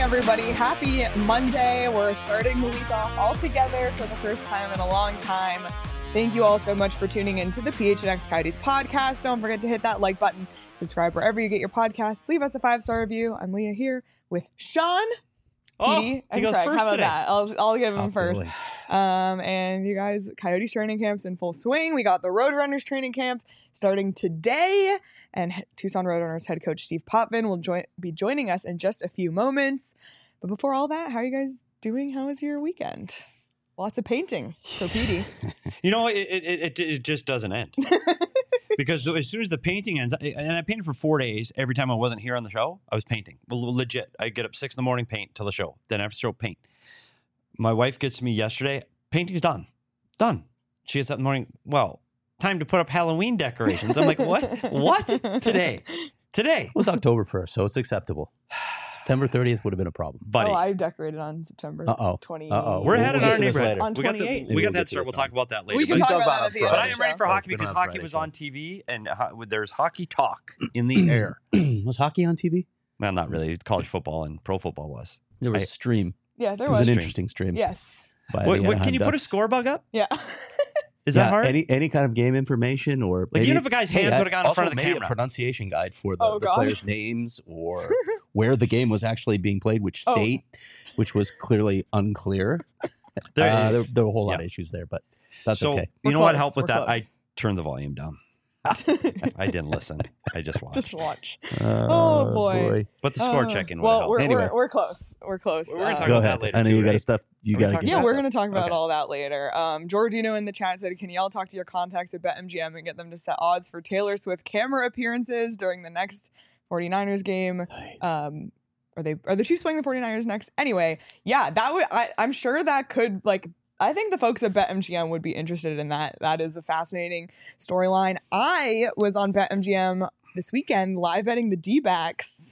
everybody. Happy Monday. We're starting the week off all together for the first time in a long time. Thank you all so much for tuning in to the PHNX Coyotes podcast. Don't forget to hit that like button, subscribe wherever you get your podcasts, leave us a 5-star review. I'm Leah here with Sean, Petey, and goes Craig. first How about today. that? I'll give him Top first. billing. And you guys, Coyotes training camp's in full swing. We got the Roadrunners training camp starting today, and Tucson Roadrunners head coach Steve Potvin will be joining us in just a few moments. But before all that, how are you guys doing? How was your weekend? Lots of painting for Petey. You know, it just doesn't end. Because as soon as the painting ends, and I painted for 4 days, every time I wasn't here on the show, I was painting. Well, legit. I get up 6 a.m, paint till the show. Then after the show, paint. My wife gets to me yesterday, painting's done. Done. She gets up in the morning, well, time to put up Halloween decorations. I'm like, what? What? Today. It was October 1st, so it's acceptable. September 30th would have been a problem. Buddy. Oh, I decorated on September 28th. We're ahead We'll in get our to this neighborhood. later. On We got 28th. the We'll head get to start. this We'll talk on. about that later. We can But- talk about that at the end But of I the am ready show. for hockey Been because on hockey Friday, was so. on TV and there's hockey talk in the air. Was hockey on TV? Well, not really. College football and pro football was. There was a stream. Yeah, there It was was. an Stream. interesting stream. Yes. by the Wait, can Anaheim you put a Ducks. score bug up? Yeah. Is Yeah, that hard? Any kind of game information or Like, even if a guy's hands would've gone in front of the maybe camera. a pronunciation guide for the, Oh, the God. players' names or where the game was actually being played, which Oh. state, which was clearly unclear. There- There were a whole lot yeah. of issues there, but that's so, okay. We're you know what close. helped with We're that? I close. turned the volume down. I didn't listen. I just watched. Just watch. Oh, boy. But the score checking would Well, help. we're, Anyway. we're close. We're close. We're gonna talk Go about ahead. that later I know too, you got right? stuff. You Are we got to talking get Yeah, about we're stuff. going to talk about Okay. all that later. Jordino in the chat said, can y'all talk to your contacts at BetMGM and get them to set odds for Taylor Swift camera appearances during the next 49ers game? Are the Chiefs playing the 49ers next? Anyway, yeah, that would I'm sure that could I think the folks at BetMGM would be interested in that. That is a fascinating storyline. I was on BetMGM this weekend live betting the D-backs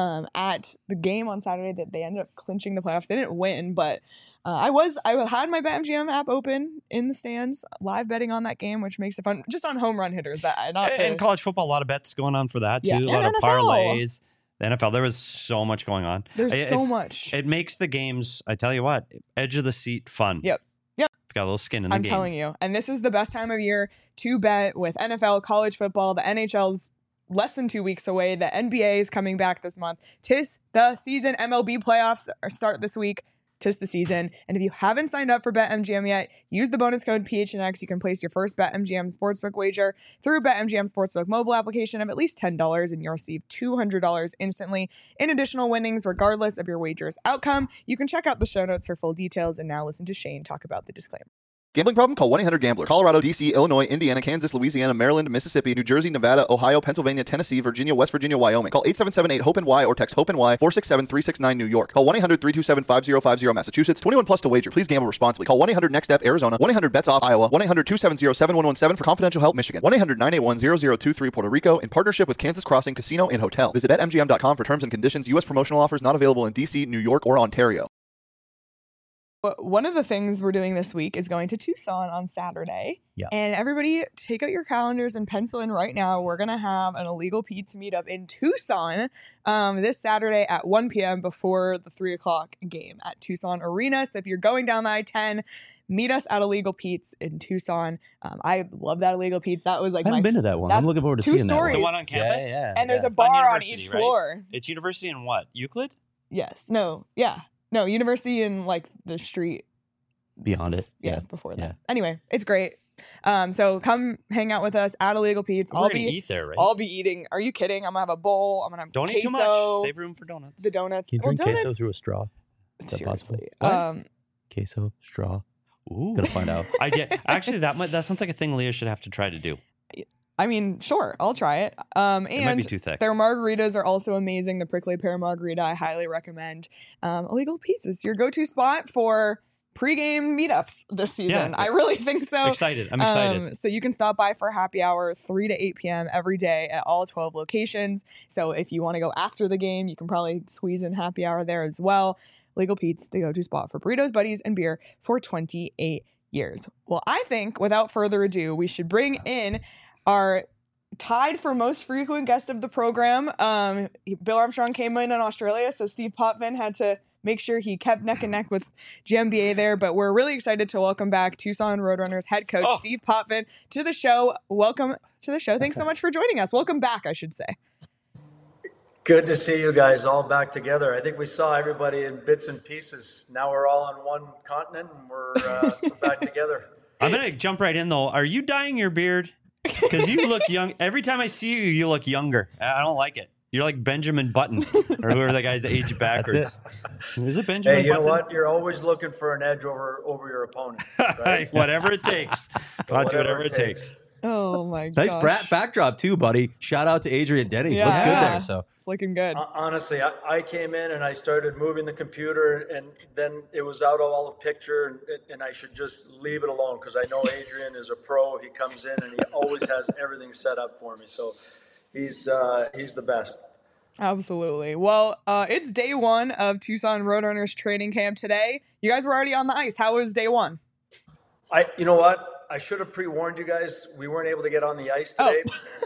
at the game on Saturday that they ended up clinching the playoffs. They didn't win, but I had my BetMGM app open in the stands, live betting on that game, which makes it fun. Just on home run hitters, And college football, a lot of bets going on for that too. Yeah. A lot And of NFL. parlays. The NFL, there was so much going on. There's so much. It makes the games, I tell you what, edge of the seat fun. Yep. Got a little skin in the I'm game. telling you. And this is the best time of year to bet with NFL, college football. The NHL's less than 2 weeks away. The NBA is coming back this month. 'Tis the season. MLB playoffs start this week. 'Tis the season. And if you haven't signed up for BetMGM yet, use the bonus code PHNX. You can place your first BetMGM Sportsbook wager through BetMGM Sportsbook mobile application of at least $10, and you'll receive $200 instantly in additional winnings, regardless of your wager's outcome. You can check out the show notes for full details. And now listen to Shane talk about the disclaimer. Gambling problem? Call 1-800-GAMBLER. Colorado, D.C., Illinois, Indiana, Kansas, Louisiana, Maryland, Mississippi, New Jersey, Nevada, Ohio, Pennsylvania, Tennessee, Virginia, West Virginia, Wyoming. Call 877-8-HOPE-NY or text HOPE-NY 467-369 New York. Call 1-800-327-5050 Massachusetts. 21 plus to wager. Please gamble responsibly. Call 1-800-NEXT-STEP Arizona. 1-800-BETS-OFF Iowa. 1-800-270-7117 for confidential help Michigan. 1-800-981-0023 Puerto Rico in partnership with Kansas Crossing Casino and Hotel. Visit BetMGM.com for terms and conditions. U.S. promotional offers not available in D.C., New York, or Ontario. One of the things we're doing this week is going to Tucson on Saturday. Yeah. And everybody take out your calendars and pencil in right now. We're going to have an Illegal Pete's meetup in Tucson this Saturday at 1 p.m. before the 3 o'clock game at Tucson Arena. So if you're going down the I-10, meet us at Illegal Pete's in Tucson. I love that Illegal Pete's. That was like I haven't been to that one. I'm that's looking forward to two seeing stories. that The one. one on campus? And there's a yeah. bar on University, each right? floor. It's university in what? Euclid? Yes. No. Yeah. No, University in like the street. Beyond it. Yeah, before that. yeah. Anyway, it's great. So come hang out with us at Illegal Pete's. We're going to eat there, right? I'll be eating. Are you kidding? I'm gonna have a bowl. I'm gonna have Don't queso, eat too much. Save room for donuts. the donuts. Can you drink donuts, queso through a straw? Is that possible? seriously. What? Queso, straw. Ooh. Gonna find out. I did. Actually, that sounds like a thing Leah should have to try to do. I mean, sure, I'll try it. It might be And too thick. their margaritas are also amazing. The prickly pear margarita, I highly recommend. Illegal Pete's is your go-to spot for pre-game meetups this season. I really think so. Excited. I'm excited. So you can stop by for happy hour 3 to 8 p.m. every day at all 12 locations. So if you want to go after the game, you can probably squeeze in happy hour there as well. Legal Pete's, the go-to spot for burritos, buddies, and beer for 28 years. Well, I think without further ado, we should bring in our tied for most frequent guest of the program. Bill Armstrong came in Australia, so Steve Potvin had to make sure he kept neck and neck with GMBA there. But we're really excited to welcome back Tucson Roadrunners head coach Steve Potvin to the show. Welcome to the show. Thanks so much for joining us. Welcome back, I should say. Good to see you guys all back together. I think we saw everybody in bits and pieces. Now we're all on one continent and we're back together. I'm going to jump right in, though. Are you dyeing your beard? Because you look young. Every time I see you, you look younger. I don't like it. You're like Benjamin Button or whoever the guy's that age backwards. Is it Benjamin Hey, you Button? know what? You're always looking for an edge over your opponent. Right? Whatever it takes. I'll do whatever it takes. Oh, my gosh. Nice backdrop, too, buddy. Shout out to Adrian Denny. Yeah. Looks good there. So It's looking good. Honestly, I came in and I started moving the computer, and then it was out of all the picture, and I should just leave it alone because I know Adrian is a pro. He comes in and he always has everything set up for me. So he's the best. Absolutely. Well, it's day one of Tucson Roadrunners training camp today. You guys were already on the ice. How was day one? You know what? I should have pre-warned you guys. We weren't able to get on the ice today.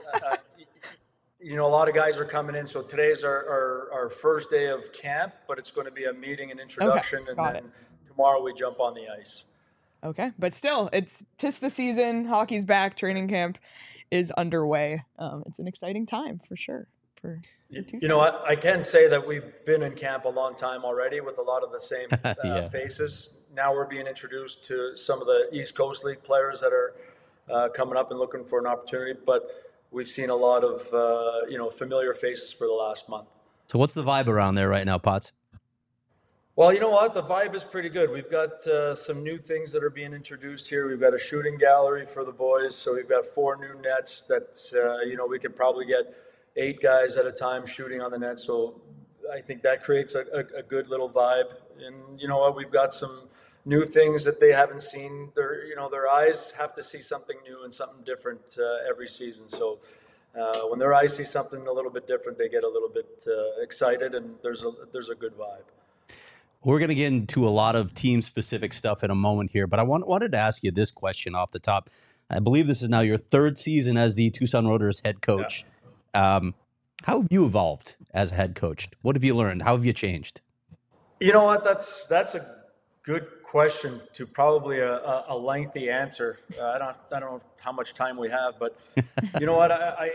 You know, a lot of guys are coming in. So today's our first day of camp, but it's going to be a meeting and introduction. And then tomorrow we jump on the ice. Okay. But still, tis the season. Hockey's back. Training camp is underway. It's an exciting time for sure. You know what? I can say that we've been in camp a long time already with a lot of the same faces. Now we're being introduced to some of the East Coast League players that are coming up and looking for an opportunity. But we've seen a lot of familiar faces for the last month. what's the vibe around there right now, Potts? Well, you know what? The vibe is pretty good. We've got some new things that are being introduced here. We've got a shooting gallery for the boys. So we've got 4 new nets that, we could probably get 8 guys at a time shooting on the net. So I think that creates a good little vibe. And you know what? We've got some new things that they haven't seen. Their eyes have to see something new and something different every season. So when their eyes see something a little bit different, they get a little bit excited, and there's a good vibe. We're going to get into a lot of team-specific stuff in a moment here, but I wanted to ask you this question off the top. I believe this is now your 3rd season as the Tucson Roadrunners head coach. Yeah. How have you evolved as a head coach? What have you learned? How have you changed? You know what? That's a good question to probably a lengthy answer. I don't know how much time we have, but you know what?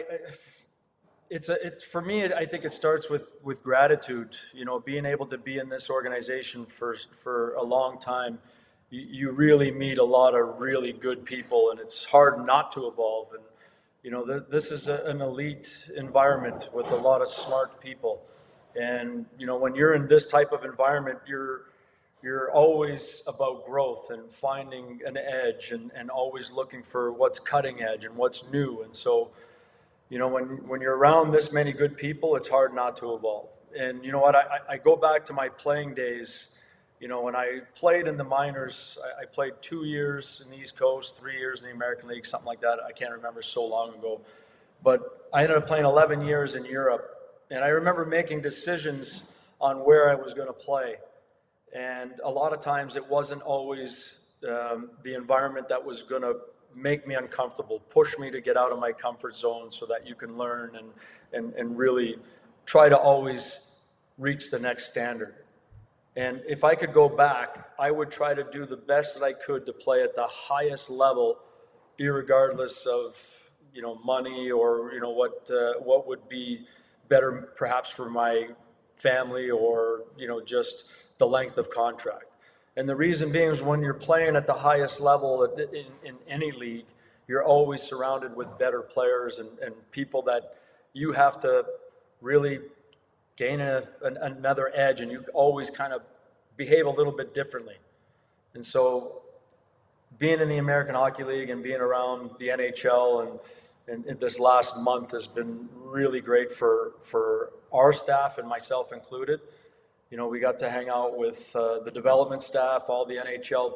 It's for me. I think it starts with gratitude. You know, being able to be in this organization for a long time, you really meet a lot of really good people, and it's hard not to evolve. And you know, this is an elite environment with a lot of smart people. And, you know, when you're in this type of environment, you're always about growth and finding an edge and always looking for what's cutting edge and what's new. And so, you know, when you're around this many good people, it's hard not to evolve. And you know what, I go back to my playing days. You know, when I played in the minors, I played 2 years in the East Coast, 3 years in the American League, something like that. I can't remember, so long ago. But I ended up playing 11 years in Europe. And I remember making decisions on where I was going to play. And a lot of times it wasn't always the environment that was going to make me uncomfortable, push me to get out of my comfort zone so that you can learn and really try to always reach the next standard. And if I could go back, I would try to do the best that I could to play at the highest level, irregardless of, you know, money or, you know, what would be better perhaps for my family or, you know, just the length of contract. And the reason being is when you're playing at the highest level in any league, you're always surrounded with better players and people that you have to really gain another edge, and you always kind of behave a little bit differently. And so being in the American Hockey League and being around the NHL and this last month has been really great for our staff and myself included. You know, we got to hang out with the development staff, all the NHL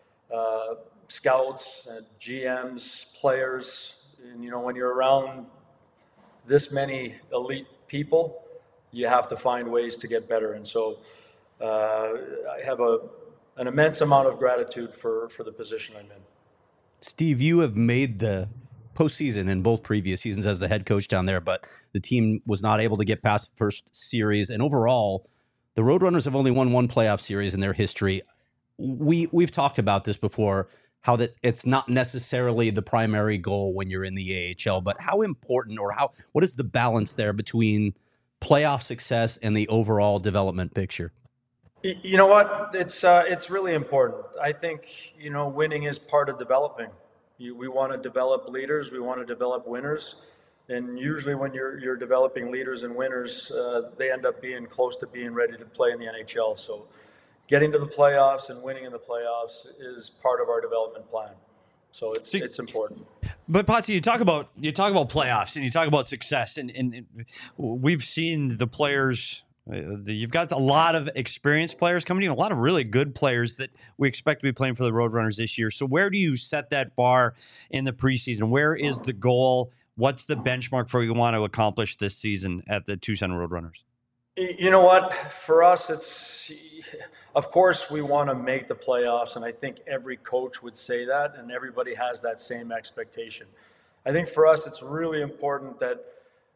scouts, GMs, players. And, you know, when you're around this many elite people, you have to find ways to get better. And so I have an immense amount of gratitude for the position I'm in. Steve, you have made the postseason in both previous seasons as the head coach down there, but the team was not able to get past the first series. And overall, the Roadrunners have only won one playoff series in their history. We've talked about this before, how that it's not necessarily the primary goal when you're in the AHL, but how important or what is the balance there between playoff success and the overall development picture? You know what? It's really important. I think, winning is part of developing. We want to develop leaders. We want to develop winners. And usually when you're developing leaders and winners, they end up being close to being ready to play in the NHL. So getting to the playoffs and winning in the playoffs is part of our development plan. So it's important. But Potsy, you talk about playoffs and you talk about success, and we've seen the players. You've got a lot of experienced players coming in, a lot of really good players that we expect to be playing for the Roadrunners this year. So where do you set that bar in the preseason? Where is the goal? What's the benchmark for what you want to accomplish this season at the Tucson Roadrunners? You know what? For us, of course, we want to make the playoffs, and I think every coach would say that, and everybody has that same expectation. I think for us, it's really important that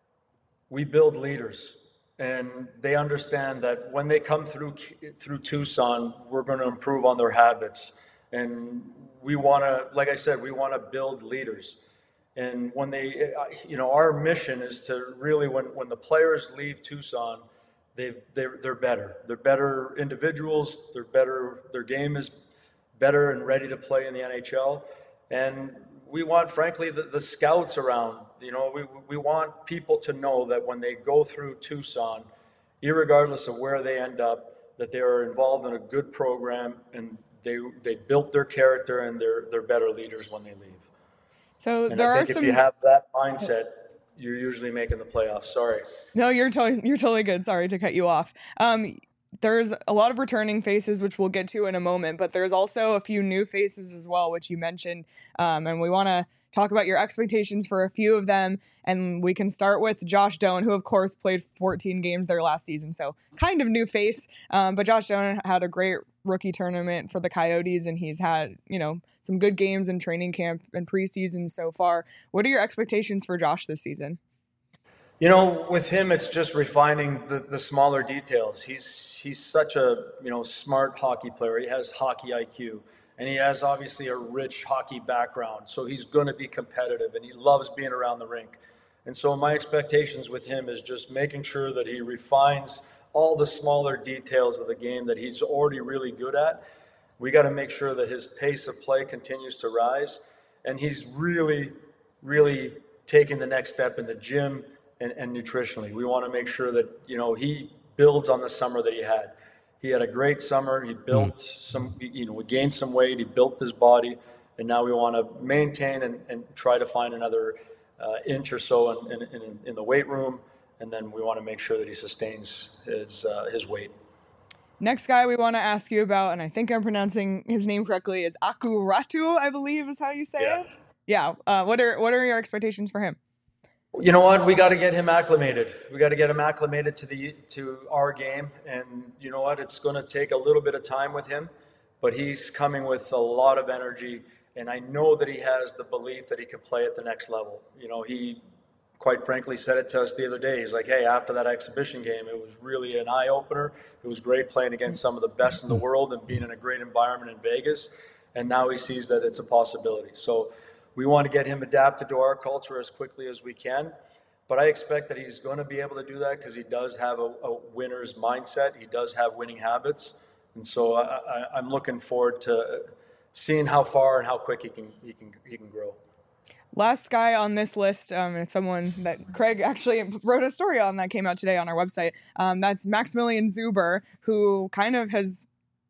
we build leaders, and they understand that when they come through Tucson, we're going to improve on their habits, and we want to, like I said, we want to build leaders. And when they, our mission is to really, when the players leave Tucson, they're better. They're better individuals. They're better. Their game is better and ready to play in the NHL. And we want, frankly, the scouts around. We want people to know that when they go through Tucson, irregardless of where they end up, that they are involved in a good program and they built their character and they're better leaders when they leave. So and I think if you have that mindset, you're usually making the playoffs. Sorry. No, you're totally good. Sorry to cut you off. There's a lot of returning faces, which we'll get to in a moment, but there's also a few new faces as well, which you mentioned. And we want to talk about your expectations for a few of them. And we can start with Josh Doan, who, of course, played 14 games there last season. So kind of new face. But Josh Doan had a great rookie tournament for the Coyotes, and he's had, some good games in training camp and preseason so far. What are your expectations for Josh this season? With him, it's just refining the smaller details. He's such a, smart hockey player. He has hockey IQ, and he has obviously a rich hockey background. So he's going to be competitive, and he loves being around the rink. And so my expectations with him is just making sure that he refines all the smaller details of the game that he's already really good at. We got to make sure that his pace of play continues to rise, and he's really, really taking the next step in the gym and nutritionally. We want to make sure that, he builds on the summer that he had. He had a great summer. He built we gained some weight. He built his body, and now we want to maintain and try to find another inch or so in the weight room, and then we want to make sure that he sustains his weight. Next guy we want to ask you about, and I think I'm pronouncing his name correctly, is Aku Ratu, I believe is how you say it. Yeah. What are your expectations for him? You know what? We got to get him acclimated. We got to get him acclimated to our game, and you know what? It's going to take a little bit of time with him, but he's coming with a lot of energy, and I know that he has the belief that he can play at the next level. He quite frankly said it to us the other day. He's like, hey, after that exhibition game, it was really an eye-opener. It was great playing against some of the best in the world and being in a great environment in Vegas, and now he sees that it's a possibility. So we want to get him adapted to our culture as quickly as we can, but I expect that he's going to be able to do that because he does have a winner's mindset. He does have winning habits, and so I'm looking forward to seeing how far and how quick he can grow. Last guy on this list, and it's someone that Craig actually wrote a story on that came out today on our website. That's Maximilian Zuber, who kind of has,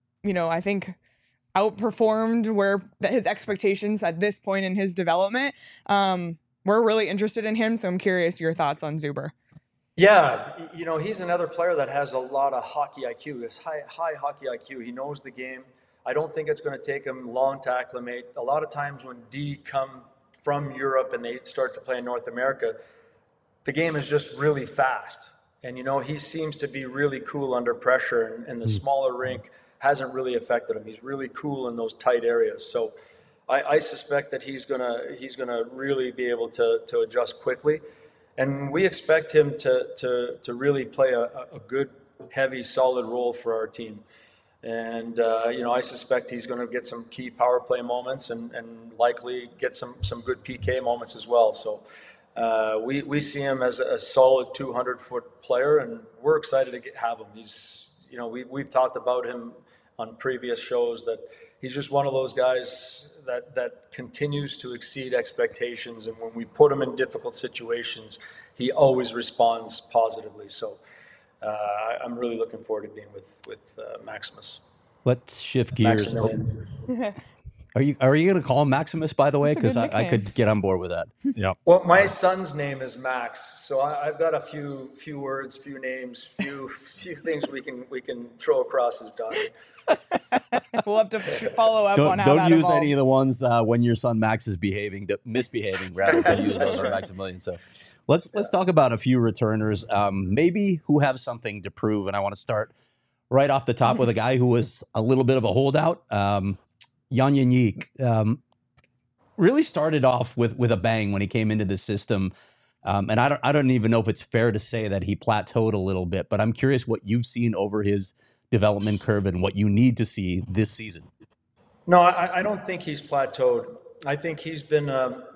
I think, outperformed where his expectations at this point in his development. We're really interested in him, so I'm curious your thoughts on Zuber. Yeah, he's another player that has a lot of hockey IQ. His high hockey IQ. He knows the game. I don't think it's going to take him long to acclimate. A lot of times when D come from Europe and they start to play in North America, the game is just really fast. And, he seems to be really cool under pressure, and the smaller rink hasn't really affected him. He's really cool in those tight areas. So I suspect that he's gonna really be able to adjust quickly, and we expect him to really play a good, heavy, solid role for our team. And I suspect he's going to get some key power play moments and likely get some good PK moments as well. So we see him as a solid 200-foot player, and we're excited to have him. He's we've talked about him on previous shows that he's just one of those guys that continues to exceed expectations, and when we put him in difficult situations, he always responds positively. So I'm really looking forward to being with Maximus. Let's shift gears. Are you going to call him Maximus, by the way? Because I could get on board with that. Yeah. Well, my son's name is Max, so I've got a few words, few names, few things we can throw across his daughter. We'll have to follow up on how Don't that use evolves. any of the ones when your son Max is misbehaving, rather than use those on Maximilian. So let's talk about a few returners, maybe who have something to prove. And I want to start right off the top with a guy who was a little bit of a holdout. Jan Jenik really started off with a bang when he came into the system. And I don't even know if it's fair to say that he plateaued a little bit, but I'm curious what you've seen over his development curve and what you need to see this season. No, I don't think he's plateaued. I think he's been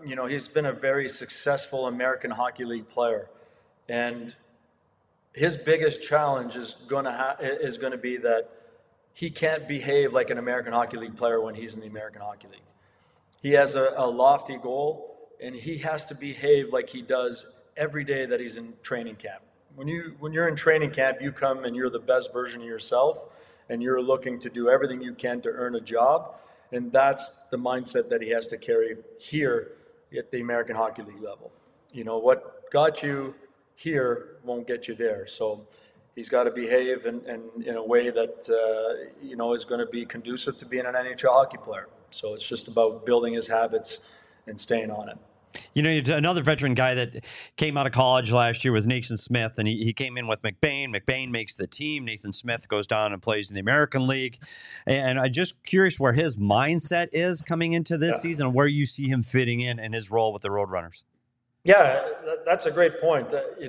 a very successful American Hockey League player, and his biggest challenge is going to be that he can't behave like an American Hockey League player when he's in the American Hockey League. He has a lofty goal, and he has to behave like he does every day that he's in training camp. When you're in training camp, you come and you're the best version of yourself, and you're looking to do everything you can to earn a job, and that's the mindset that he has to carry here at the American Hockey League level. What got you here won't get you there. So he's got to behave in a way that is going to be conducive to being an NHL hockey player. So it's just about building his habits and staying on it. Another veteran guy that came out of college last year was Nathan Smith, and he came in with McBain. McBain makes the team. Nathan Smith goes down and plays in the American League. And I'm just curious where his mindset is coming into this season and where you see him fitting in his role with the Roadrunners. Yeah, that's a great point.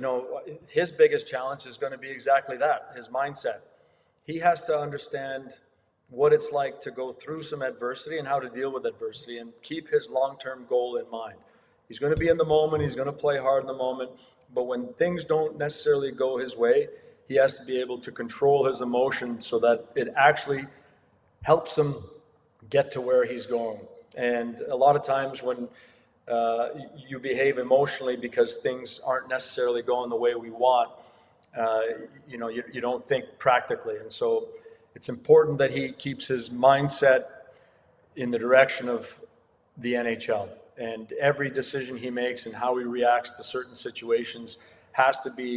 His biggest challenge is going to be exactly that, his mindset. He has to understand what it's like to go through some adversity and how to deal with adversity and keep his long-term goal in mind. He's going to be in the moment. He's going to play hard in the moment. But when things don't necessarily go his way, he has to be able to control his emotion so that it actually helps him get to where he's going. And a lot of times when you behave emotionally because things aren't necessarily going the way we want, you don't think practically. And so it's important that he keeps his mindset in the direction of the NHL. And every decision he makes and how he reacts to certain situations has to be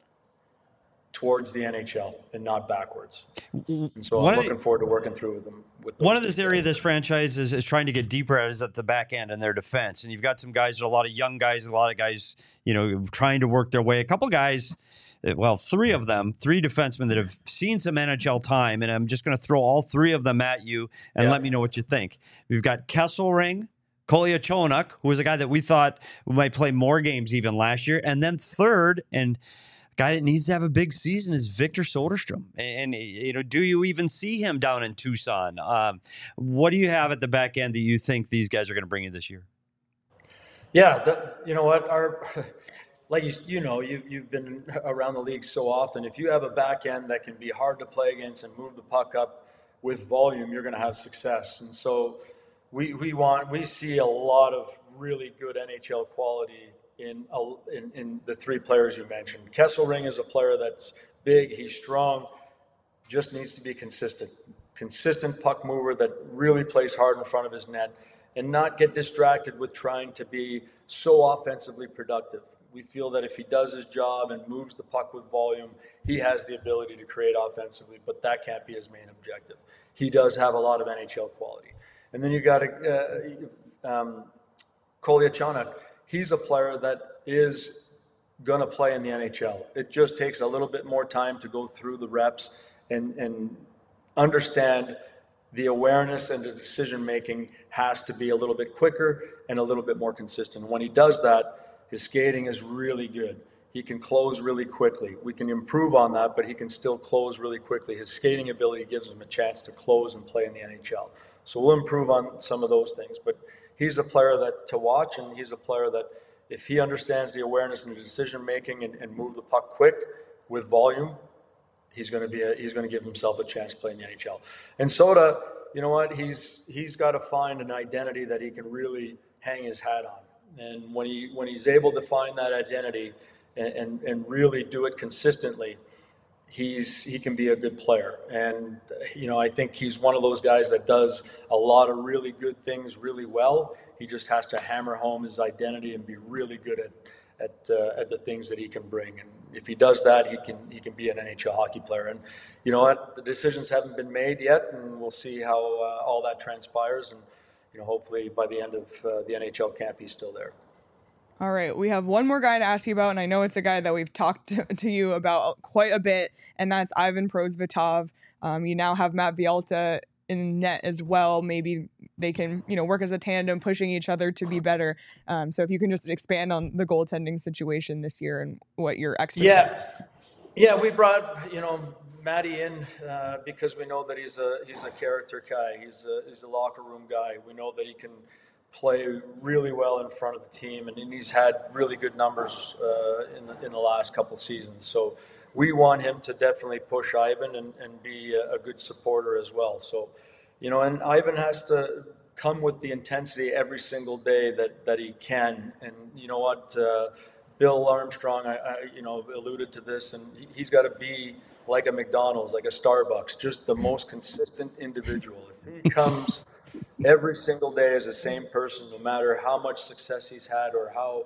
towards the NHL and not backwards. And so I'm looking forward to working through with him. One of this area of this franchise is trying to get deeper at is at the back end in their defense. And you've got some guys, a lot of young guys, a lot of guys, trying to work their way. A couple guys, well, three defensemen that have seen some NHL time. And I'm just going to throw all three of them at you and let me know what you think. We've got Kesselring, Kolyachonok, who was a guy that we thought might play more games even last year. And then third, and a guy that needs to have a big season is Victor Soderstrom. And do you even see him down in Tucson? What do you have at the back end that you think these guys are going to bring you this year? Yeah, you know what? You've been around the league so often. If you have a back end that can be hard to play against and move the puck up with volume, you're going to have success. And so we see a lot of really good NHL quality in the three players you mentioned. Kesselring is a player that's big, he's strong, just needs to be consistent puck mover that really plays hard in front of his net and not get distracted with trying to be so offensively productive. We feel that if he does his job and moves the puck with volume, he has the ability to create offensively, but that can't be his main objective. He does have a lot of NHL quality. And then you got Kolyachonok. He's a player that is going to play in the NHL. It just takes a little bit more time to go through the reps and understand the awareness and his decision making has to be a little bit quicker and a little bit more consistent. When he does that, his skating is really good. He can close really quickly. We can improve on that, but he can still close really quickly. His skating ability gives him a chance to close and play in the NHL. So we'll improve on some of those things. But he's a player that to watch, and he's a player that if he understands the awareness and the decision making and move the puck quick with volume, he's going to give himself a chance to play in the NHL. And Soda, you know what? He's got to find an identity that he can really hang his hat on. And when he's able to find that identity and really do it consistently, he can be a good player. And I think he's one of those guys that does a lot of really good things really well. He just has to hammer home his identity and be really good at the things that he can bring. And if he does that, he can be an NHL hockey player. And you know what? The decisions haven't been made yet, and we'll see how all that transpires. And hopefully by the end of the NHL camp, he's still there. All right, we have one more guy to ask you about, and I know it's a guy that we've talked to you about quite a bit, and that's Ivan Prosvetov. You now have Matt Villalta in net as well. Maybe they can, work as a tandem, pushing each other to be better. So if you can just expand on the goaltending situation this year and what your expectations. Yeah, we brought Matty in because we know that he's a character guy. He's a locker room guy. We know that he can play really well in front of the team, and he's had really good numbers in the last couple seasons. So we want him to definitely push Ivan and be a good supporter as well. So, and Ivan has to come with the intensity every single day that he can. And you know what, Bill Armstrong, I alluded to this, and he's got to be like a McDonald's, like a Starbucks, just the most consistent individual. If he comes every single day as the same person, no matter how much success he's had or how,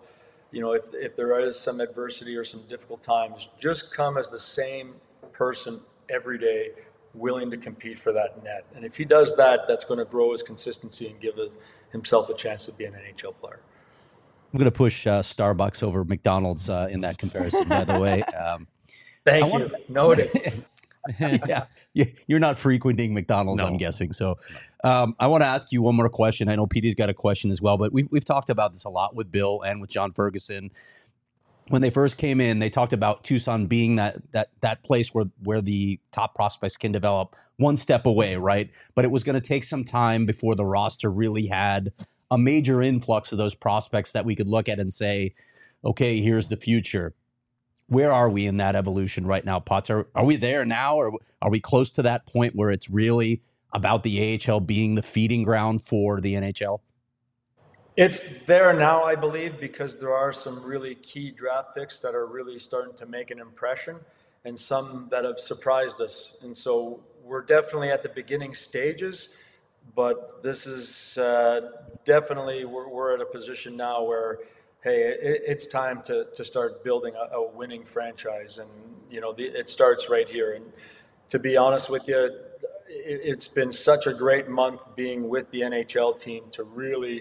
if there is some adversity or some difficult times, just come as the same person every day, willing to compete for that net. And if he does that, that's going to grow his consistency and give himself a chance to be an NHL player. I'm going to push Starbucks over McDonald's in that comparison, by the way. Thank you. Noted. Yeah, you're not frequenting McDonald's, no. I'm guessing. So I want to ask you one more question. I know Petey's got a question as well, but we've talked about this a lot with Bill and with John Ferguson. When they first came in, they talked about Tucson being that place where the top prospects can develop one step away, right? But it was going to take some time before the roster really had a major influx of those prospects that we could look at and say, okay, here's the future. Where are we in that evolution right now, Potts? Are we there now, or are we close to that point where it's really about the AHL being the feeding ground for the NHL? It's there now, I believe, because there are some really key draft picks that are really starting to make an impression and some that have surprised us. And so we're definitely at the beginning stages, but this is definitely, we're at a position now where, hey, it's time to start building a winning franchise. And, it starts right here. And to be honest with you, it's been such a great month being with the NHL team to really,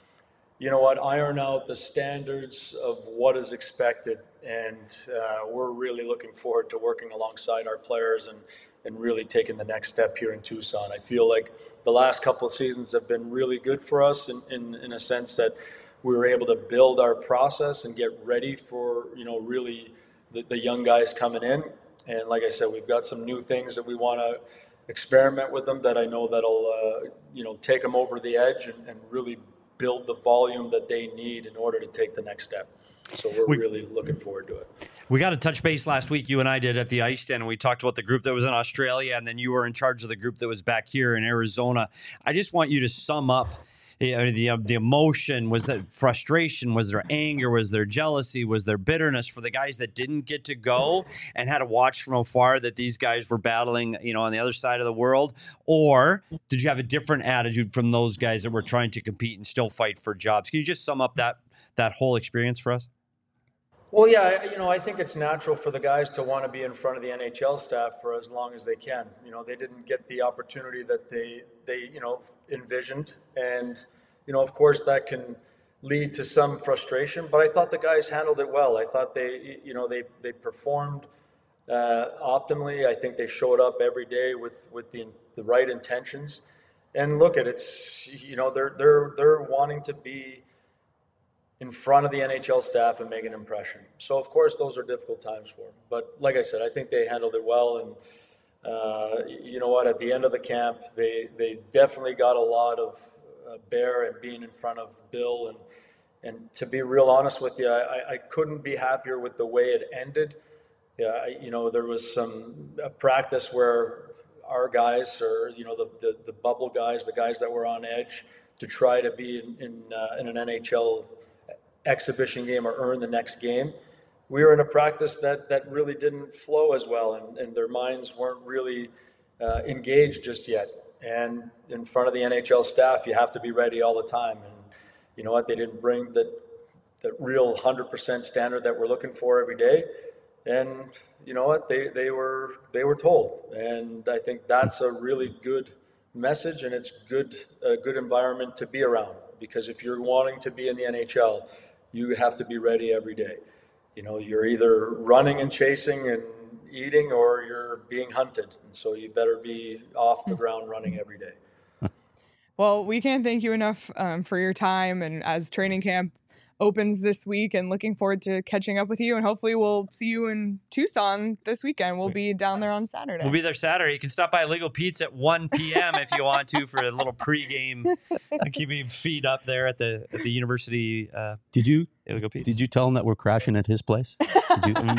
iron out the standards of what is expected. And we're really looking forward to working alongside our players and really taking the next step here in Tucson. I feel like the last couple of seasons have been really good for us in a sense that we were able to build our process and get ready for, really the young guys coming in. And like I said, we've got some new things that we want to experiment with them that I know that'll, take them over the edge and really build the volume that they need in order to take the next step. So we're really looking forward to it. We got a touch base last week, you and I did, at the ice stand, and we talked about the group that was in Australia, and then you were in charge of the group that was back here in Arizona. I just want you to sum up the emotion. Was there frustration? Was there anger? Was there jealousy? Was there bitterness for the guys that didn't get to go and had to watch from afar that these guys were battling, on the other side of the world? Or did you have a different attitude from those guys that were trying to compete and still fight for jobs? Can you just sum up that whole experience for us? Well, yeah, I think it's natural for the guys to want to be in front of the NHL staff for as long as they can. They didn't get the opportunity that they envisioned. And, of course, that can lead to some frustration. But I thought the guys handled it well. I thought they performed optimally. I think they showed up every day with the right intentions. And look at it's, they're wanting to be in front of the NHL staff and make an impression. So of course those are difficult times for them. But like I said, I think they handled it well. And you know what? At the end of the camp, they definitely got a lot of bear and being in front of Bill. And to be real honest with you, I couldn't be happier with the way it ended. Yeah, there was a practice where our guys, or the bubble guys, the guys that were on edge, to try to be in an NHL exhibition game or earn the next game. We were in a practice that really didn't flow as well, and their minds weren't really engaged just yet. And in front of the NHL staff, you have to be ready all the time. And you know what? They didn't bring the real 100% standard that we're looking for every day. And you know what? They were told. And I think that's a really good message, and it's a good environment to be around. Because if you're wanting to be in the NHL, you have to be ready every day. You're either running and chasing and eating, or you're being hunted. And so you better be off the ground running every day. Well, we can't thank you enough for your time, and as training camp opens this week, and looking forward to catching up with you, and hopefully we'll see you in Tucson this weekend. We'll be down there on Saturday. We'll be there Saturday. You can stop by Legal Pete's at 1 p.m. if you want to for a little pregame, keeping your feet up there at the university. Did you Legal Pete's. Did you tell him that we're crashing at his place? Did you,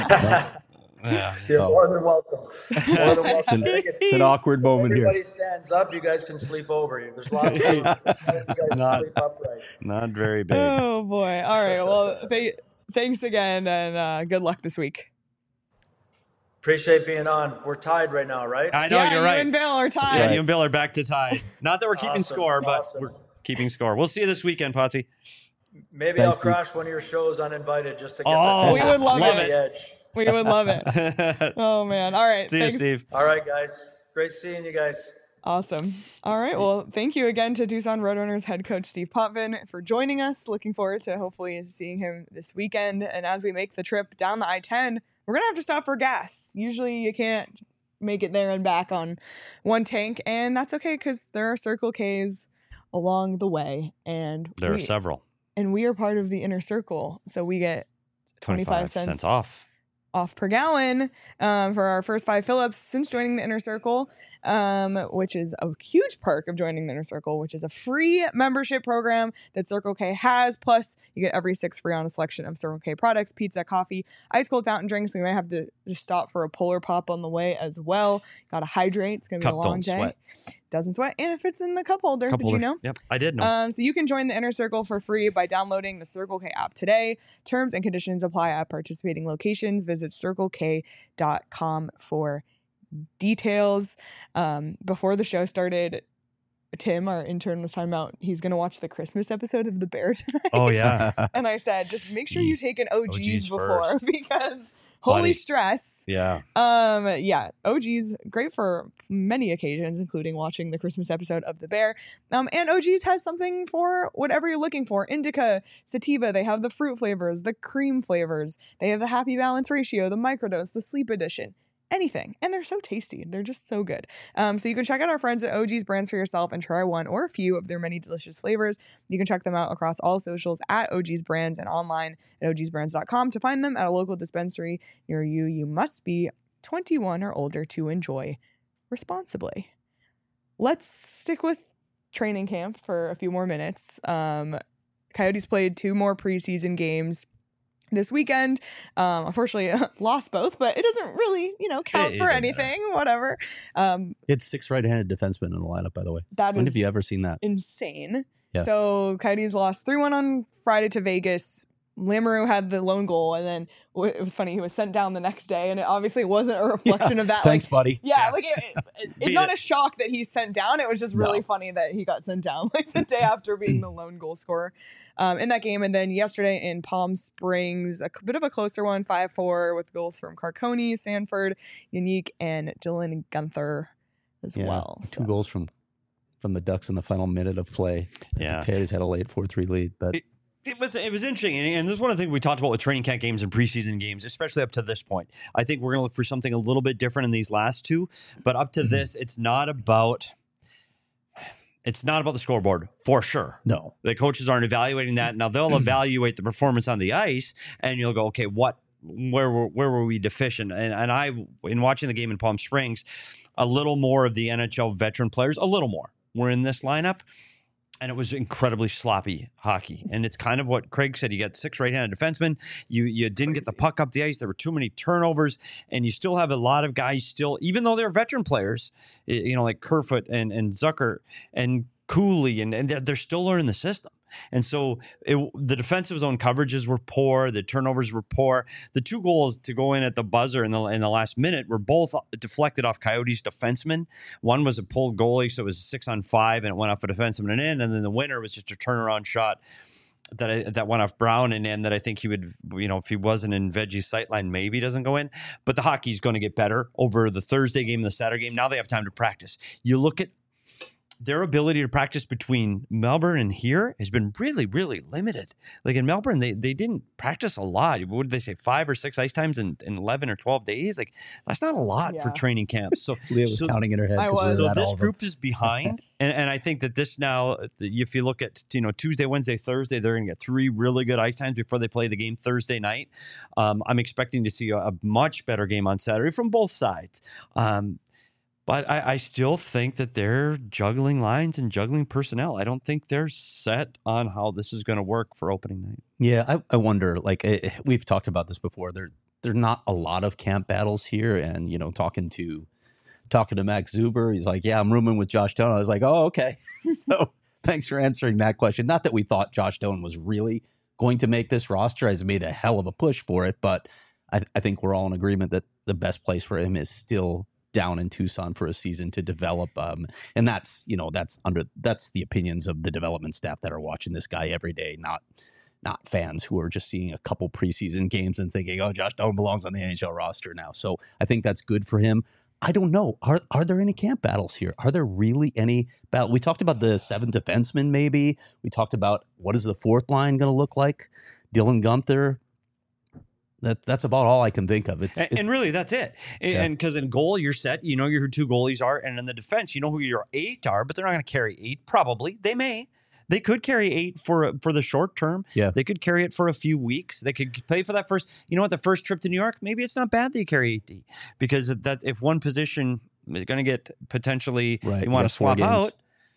Yeah. You're more than welcome. More than welcome. It's an awkward moment Everybody here. stands up. You guys can sleep over. There's lots of room. You guys sleep upright. Not very big. Oh boy! All right. Well, thanks again, and good luck this week. Appreciate being on. We're tied right now, right? I know, you're you right. and Bill are tied. Yeah, you and Bill are back to tie. Not that we're keeping Awesome, score, but awesome. we're keeping score. We'll see you this weekend, Potsy. Maybe Thanks, I'll crash one of your shows uninvited just to get Oh, that we would love on it. the edge. We would love it. Oh man! All right. See you, thanks. Steve. All right, guys. Great seeing you guys. Awesome. All right. Well, thank you again to Tucson Roadrunners head coach Steve Potvin for joining us. Looking forward to hopefully seeing him this weekend. And as we make the trip down the I-10, we're going to have to stop for gas. Usually you can't make it there and back on one tank. And that's okay because there are Circle Ks along the way. And There are several. And we are part of the inner circle. So we get 25 cents off per gallon for our first 5 fill-ups since joining the Inner Circle, which is a huge perk of joining the Inner Circle, which is a free membership program that Circle K has. Plus, you get every 6 free on a selection of Circle K products, pizza, coffee, ice cold fountain drinks. We might have to just stop for a Polar Pop on the way as well. Got to hydrate. It's going to be a long day. Sweat. Doesn't sweat. And it fits in the cup holder. Did you know? Yep, I did know. So you can join the Inner Circle for free by downloading the Circle K app today. Terms and conditions apply at participating locations. Visit CircleK.com for details. Before the show started, Tim, our intern, was talking about he's going to watch the Christmas episode of The Bear tonight. Oh, yeah. And I said, just make sure you take an OGs OGs before first. because holy Buddy. stress. Yeah. Yeah, OGs great for many occasions, including watching the Christmas episode of The Bear. And OGs has something for whatever you're looking for. Indica, sativa, they have the fruit flavors, the cream flavors. They have the happy balance ratio, the microdose, the sleep edition. Anything. And they're so tasty. They're just so good. So you can check out our friends at OG's Brands for yourself and try one or a few of their many delicious flavors. You can check them out across all socials at OG's Brands and online at ogsbrands.com. To find them at a local dispensary near you, you must be 21 or older to enjoy responsibly. Let's stick with training camp for a few more minutes. Coyotes played 2 more preseason games this weekend. Unfortunately, lost both, but it doesn't really, count for anything. Whatever. It's 6 right-handed defensemen in the lineup, by the way. When have you ever seen that? Insane. Yeah. So Coyotes lost 3-1 on Friday to Vegas. Lamoureux had the lone goal, and then it was funny. He was sent down the next day, and it obviously wasn't a reflection of that. Thanks, buddy. Yeah, like it's not a shock that he's sent down. It was just really funny that he got sent down like the day after being the lone goal scorer in that game. And then yesterday in Palm Springs, a bit of a closer one, 5-4 with goals from Carconi, Sanford, Unique, and Dylan Gunther as well. 2 goals from the Ducks in the final minute of play. Yeah. The Coyotes had a late 4-3 lead, but It was interesting, and this is one of the things we talked about with training camp games and preseason games, especially up to this point. I think we're going to look for something a little bit different in these last 2, but up to this, it's not about It's not about the scoreboard for sure. No. The coaches aren't evaluating that. Now they'll evaluate the performance on the ice, and you'll go, okay, where were we deficient? And I, in watching the game in Palm Springs, a little more of the NHL veteran players, a little more, were in this lineup. And it was incredibly sloppy hockey. And it's kind of what Craig said. You got 6 right-handed defensemen. You didn't get the puck up the ice. There were too many turnovers. And you still have a lot of guys still, even though they're veteran players, like Kerfoot and Zucker and Cooley, and they're still learning the system. And so the defensive zone coverages were poor. The turnovers were poor. The 2 goals to go in at the buzzer in the last minute were both deflected off Coyotes defensemen. One was a pulled goalie, so it was 6-on-5, and it went off a defenseman and in. And then the winner was just a turnaround shot that went off Brown and in, that I think he would, if he wasn't in Veggie's sightline, maybe doesn't go in. But the hockey's going to get better over the Thursday game and the Saturday game. Now they have time to practice. You look at their ability to practice between Melbourne and here has been really, really limited. Like in Melbourne, they didn't practice a lot. What did they say? 5 or 6 ice times in 11 or 12 days? Like that's not a lot for training camps. So Leah was counting in her head. I was. So this group is behind. And I think that this now, if you look at, Tuesday, Wednesday, Thursday, they're going to get 3 really good ice times before they play the game Thursday night. I'm expecting to see a much better game on Saturday from both sides. But I still think that they're juggling lines and juggling personnel. I don't think they're set on how this is going to work for opening night. Yeah, I wonder, we've talked about this before. There are not a lot of camp battles here. And, talking to Max Zuber, he's like, yeah, I'm rooming with Josh Doan. I was like, oh, okay. So thanks for answering that question. Not that we thought Josh Doan was really going to make this roster. He's made a hell of a push for it. But I think we're all in agreement that the best place for him is still down in Tucson for a season to develop. And that's the opinions of the development staff that are watching this guy every day, not fans who are just seeing a couple preseason games and thinking, oh, Josh Doan belongs on the NHL roster now. So I think that's good for him. I don't know. Are there any camp battles here? Are there really any battle? We talked about the 7 defensemen, maybe. We talked about what is the 4th line going to look like? Dylan Guenther. That's about all I can think of. And really, that's it. And because in goal, you're set. You know who 2 goalies are. And in the defense, you know who your 8 are, but they're not going to carry 8. Probably. They may. They could carry 8 for the short term. Yeah. They could carry it for a few weeks. They could play for that first. The first trip to New York, maybe it's not bad that you carry 8D. Because that if one position is going to get potentially, you want to swap out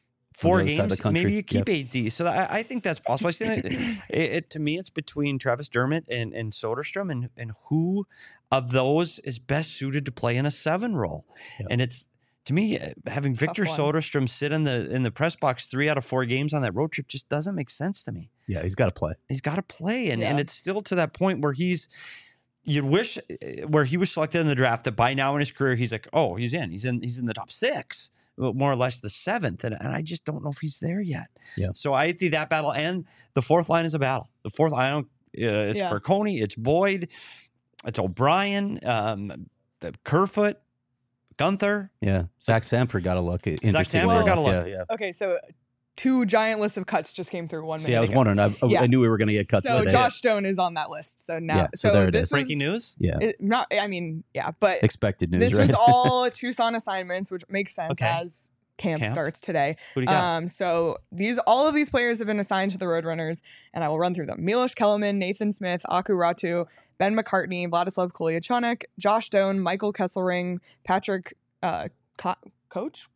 4 games, maybe you keep 8D. So I think that's possible. I think to me, it's between Travis Dermott and Soderstrom, and who of those is best suited to play in a 7 role. Yep. And it's, to me, having Victor Soderstrom sit in the press box 3 out of 4 games on that road trip just doesn't make sense to me. Yeah, he's got to play. He's got to play, and it's still to that point where you'd wish where he was selected in the draft that by now in his career he's like, oh, he's in the top 6. More or less the 7th, and I just don't know if he's there yet. Yeah. So I think that battle, and the 4th line is a battle. The 4th line, it's Carcone, it's Boyd, it's O'Brien, Kerfoot, Guenther. Yeah, Zach Sanford got a look. Zach Sanford got a look. Yeah. Okay, so 2 giant lists of cuts just came through 1 minute. See, I was wondering. I knew we were going to get cuts today. So Josh Doan is on that list. So now, so there it this is. Breaking news. Yeah. But expected news. This right? was all Tucson assignments, which makes sense as camp starts today. Who do you got? So all of these players have been assigned to the Roadrunners, and I will run through them. Milos Kellerman, Nathan Smith, Aku Ratu, Ben McCartney, Vladislav Kolyachonok, Josh Doan, Michael Kesselring, Patrick Koch?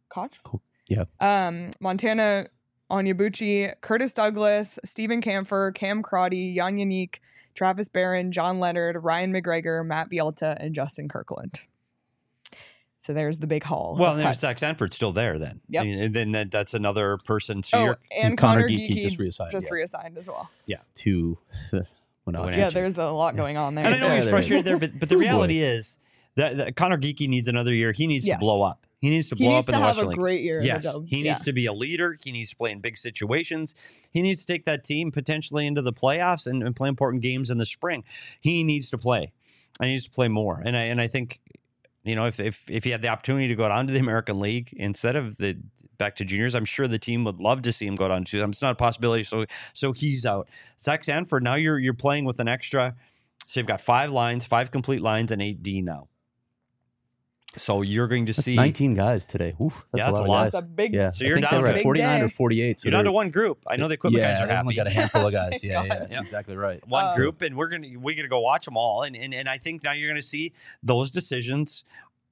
Montana Onyebuchi, Curtis Douglas, Stephen Kampfer, Cam Crotty, Jan Yannick, Travis Barron, John Leonard, Ryan McGregor, Matt Bielta, and Justin Kirkland. So there's the big haul. Well, and there's Zach Sanford still there then. Yep. And then that's another person. So and Connor Geeky just reassigned. Reassigned as well. Yeah. To there's a lot going on there. And I know he's frustrated there, but the reality is that Connor Geeky needs another year. He needs to blow up. He needs to blow up in the Western League. He needs to have a great year. Yes, he needs to be a leader. He needs to play in big situations. He needs to take that team potentially into the playoffs and play important games in the spring. He needs to play. And he needs to play more. And I think, if he had the opportunity to go down to the American League instead of back to juniors, I'm sure the team would love to see him go down to them. It's not a possibility. So he's out. Zach Sanford, now you're playing with an extra. So you've got 5 lines, 5 complete lines, and 8D now. So you're going to That's see 19 guys today. Oof, that's Yeah, a that's lot a of lot. guys. That's a big. Yeah, So I you're think down they were to at big 49 day. or 48. So you're down they're- to one group. I know the equipment yeah, guys are we happy. only got a handful of guys. Thank Yeah, God. yeah, exactly right. One group, and we're gonna go watch them all, and I think now you're gonna see those decisions.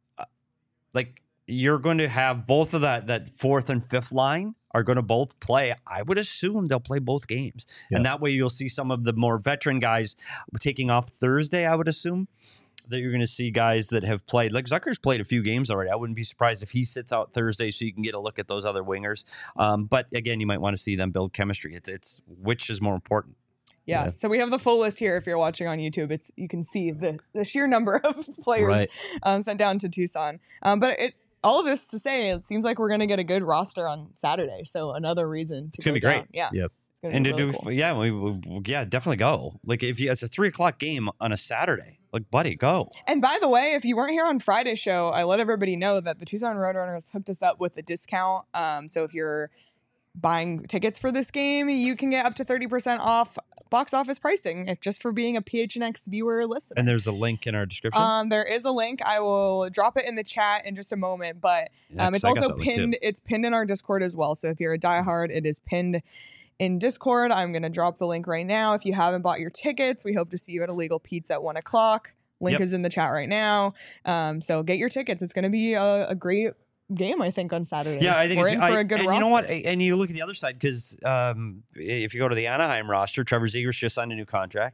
Like you're going to have both of that fourth and fifth line are going to both play. I would assume they'll play both games, and that way you'll see some of the more veteran guys taking off Thursday. I would assume that you're going to see guys that have played. Like Zucker's played a few games already. I wouldn't be surprised if he sits out Thursday, so you can get a look at those other wingers. But again, you might want to see them build chemistry. It's which is more important. Yeah. So we have the full list here. If you're watching on YouTube, you can see the sheer number of players sent down to Tucson. But all of this to say, it seems like we're going to get a good roster on Saturday. So another reason to It's gonna be down. great. Yeah. Yep. It's gonna And be to really do, cool. yeah, definitely go. Like if it's a 3:00 game on a Saturday, like buddy, go. And by the way, if you weren't here on Friday's show, I let everybody know that the Tucson Roadrunners hooked us up with a discount. So if you're buying tickets for this game, you can get up to 30% off box office pricing just for being a PHNX viewer or listener. And there's a link in our description. There is a link. I will drop it in the chat in just a moment, but Yeah, 'cause it's I got also that link too. pinned. It's pinned in our Discord as well. So if you're a diehard, it is pinned in Discord. I'm going to drop the link right now. If you haven't bought your tickets, we hope to see you at Illegal Pete's at 1:00. Link Yep. is in the chat right now. So get your tickets. It's going to be a great game, I think, on Saturday. Yeah, I think we're it's in for a good and roster. you know what? And you look at the other side because if you go to the Anaheim roster, Trevor Zegras just signed a new contract.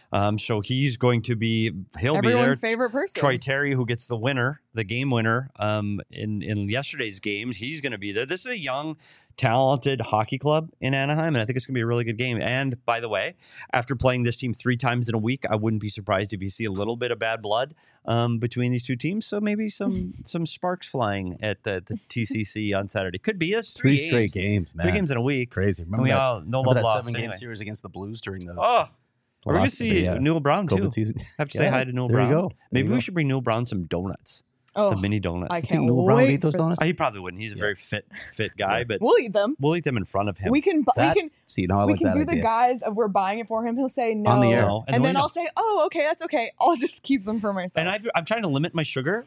So he's going to be he'll be there. Everyone's favorite person. Troy Terry, who gets the winner, the game winner, in yesterday's game, he's going to be there. This is a young, talented hockey club in Anaheim, and I think it's going to be a really good game. And by the way, after playing this team 3 times in a week, I wouldn't be surprised if you see a little bit of bad blood between these two teams. So maybe some sparks flying at the TCC on Saturday. Could be 3 straight games, man. 3 games in a week. It's crazy. And Remember we that, all no remember love that lost 7-game anyway. series against the Blues during the Oh, we're going to lost see the, Newell Brown too. COVID season. Have to say Yeah, hi to Newell there you Brown. go. There Maybe you we go. should bring Newell Brown some donuts. Oh, The mini donuts. I You think can't Newell Brown would wait eat those for- donuts? He probably wouldn't. He's a very fit guy, but We'll eat them. we'll eat them in front of him. We can. That- we can. See, no, I we like can that do idea. the guys of we're buying it for him. He'll say no On the air. No, and then we I'll say, "Oh, okay, that's okay. I'll just keep them for myself." And I'm trying to limit my sugar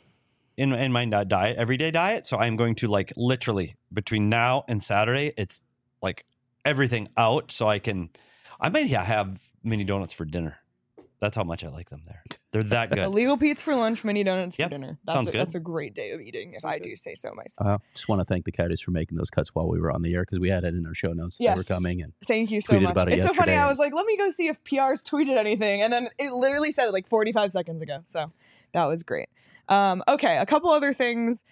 in my diet, everyday diet. So I'm going to like literally between now and Saturday, it's like everything out. So I might have mini donuts for dinner. That's how much I like them there. They're that good. Illegal Pete's for lunch, mini donuts Yep, for dinner. sounds good. That's a great day of eating, if I do say so myself. Just want to thank the Coyotes for making those cuts while we were on the air because we had it in our show notes that they were Yes. coming. And Thank you so tweeted much. about it It's so funny. yesterday. I was like, let me go see if PR's tweeted anything, and then it literally said it like 45 seconds ago. So that was great. Okay, a couple other things.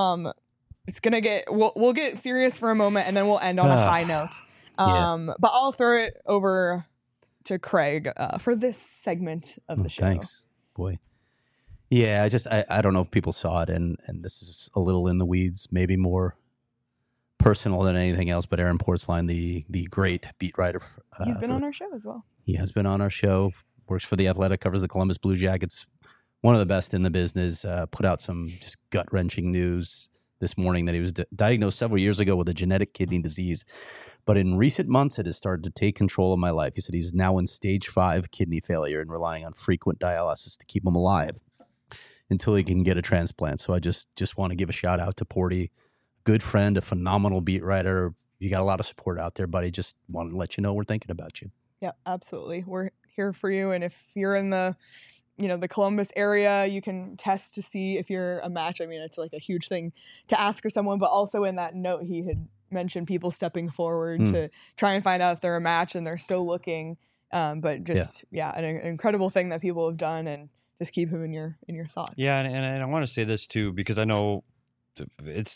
It's gonna get we'll get serious for a moment, and then we'll end on a high note. But I'll throw it over to Craig for this segment of the show. Thanks, boy. Yeah, I don't know if people saw it, and this is a little in the weeds, maybe more personal than anything else. But Aaron Portzline, the great beat writer, He's been on our show as well. He has been on our show. Works for the Athletic, covers the Columbus Blue Jackets. One of the best in the business. Put out some just gut wrenching news this morning that he was diagnosed several years ago with a genetic kidney disease. But in recent months, it has started to take control of my life. He said he's now in stage 5 kidney failure and relying on frequent dialysis to keep him alive until he can get a transplant. So I just want to give a shout out to Porty, good friend, a phenomenal beat writer. You got a lot of support out there, buddy. Just wanted to let you know we're thinking about you. Yeah, absolutely. We're here for you. And if you're in the Columbus area, you can test to see if you're a match. I mean, it's like a huge thing to ask for someone, but also in that note, he had mentioned people stepping forward to try and find out if they're a match, and they're still looking. But just, an incredible thing that people have done, and just keep him in your thoughts. Yeah, and I want to say this too, because I know it's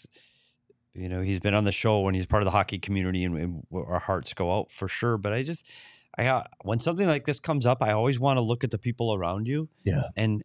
he's been on the show and he's part of the hockey community, and our hearts go out for sure. But when something like this comes up, I always want to look at the people around you. Yeah. And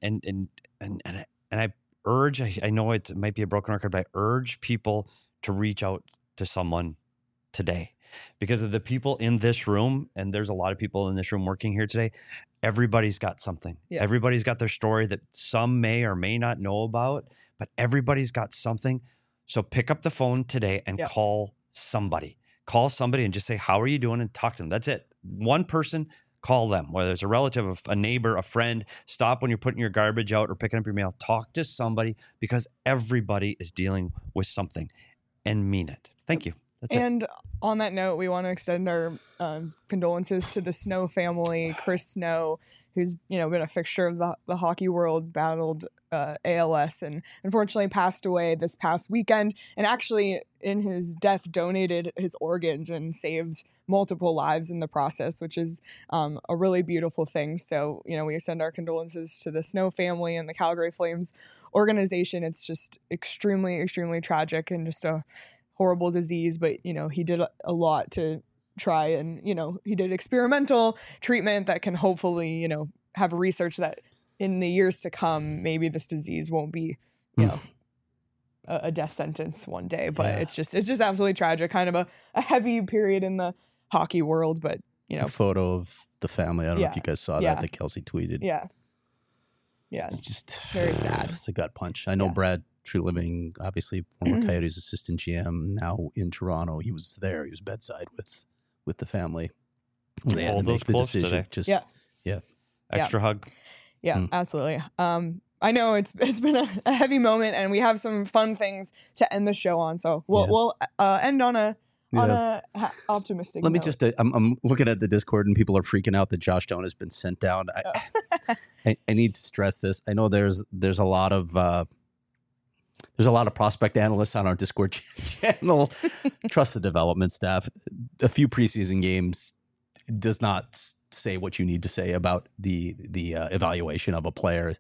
I urge, I know it might be a broken record, but I urge people to reach out to someone today, because of the people in this room, and there's a lot of people in this room working here today. Everybody's got something. Yeah. Everybody's got their story that some may or may not know about, but everybody's got something. So pick up the phone today and call somebody. Call somebody and just say, how are you doing? And talk to them. That's it. One person, Call them, whether it's a relative, a neighbor, a friend. Stop when you're putting your garbage out or picking up your mail. Talk to somebody, because everybody is dealing with something, and mean it. Thank you. That's it. And on that note, we want to extend our condolences to the Snow family. Chris Snow, who's been a fixture of the hockey world, battled ALS and unfortunately passed away this past weekend. And actually, in his death, donated his organs and saved multiple lives in the process, which is a really beautiful thing. So, we extend our condolences to the Snow family and the Calgary Flames organization. It's just extremely, extremely tragic and just a horrible disease, but he did a lot to try, and he did experimental treatment that can hopefully have research that in the years to come maybe this disease won't be a death sentence one day. But it's just absolutely tragic, kind of a heavy period in the hockey world. But A photo of the family, I don't know if you guys saw that Kelsey tweeted. yeah It's just very sad. It's a gut punch. I know Brad Treliving, obviously former Coyotes assistant GM, now in Toronto. He was there. He was bedside with the family when they had to make the decision. Today. Extra hug. Yeah, absolutely. I know it's been a heavy moment, and we have some fun things to end the show on. So we'll end on a optimistic. Let me note. just. I'm looking at the Discord, and people are freaking out that Josh Doan has been sent down. I need to stress this. I know there's a lot of prospect analysts on our Discord channel. Trust the development staff. A few preseason games does not say what you need to say about the evaluation of a player.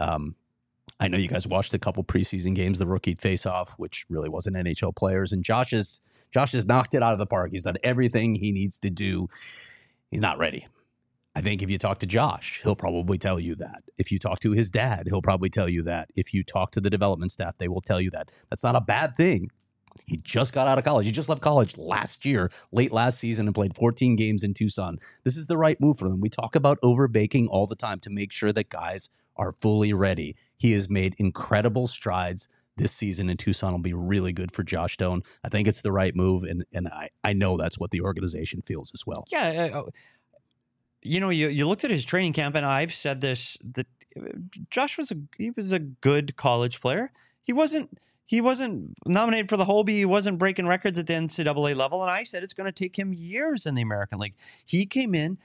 I know you guys watched a couple preseason games, the rookie face-off, which really wasn't NHL players, and Josh has knocked it out of the park. He's done everything he needs to do. He's not ready. I think if you talk to Josh, he'll probably tell you that. If you talk to his dad, he'll probably tell you that. If you talk to the development staff, they will tell you that. That's not a bad thing. He just got out of college. He just left college last year, late last season, and played 14 games in Tucson. This is the right move for them. We talk about overbaking all the time to make sure that guys are fully ready. He has made incredible strides this season in Tucson. Will be really good for Josh Doan. I think it's the right move, and I know that's what the organization feels as well. Yeah. You looked at his training camp, and I've said this, that Josh was a good college player. He wasn't nominated for the Hobie. He wasn't breaking records at the NCAA level. And I said it's going to take him years in the American League. He came in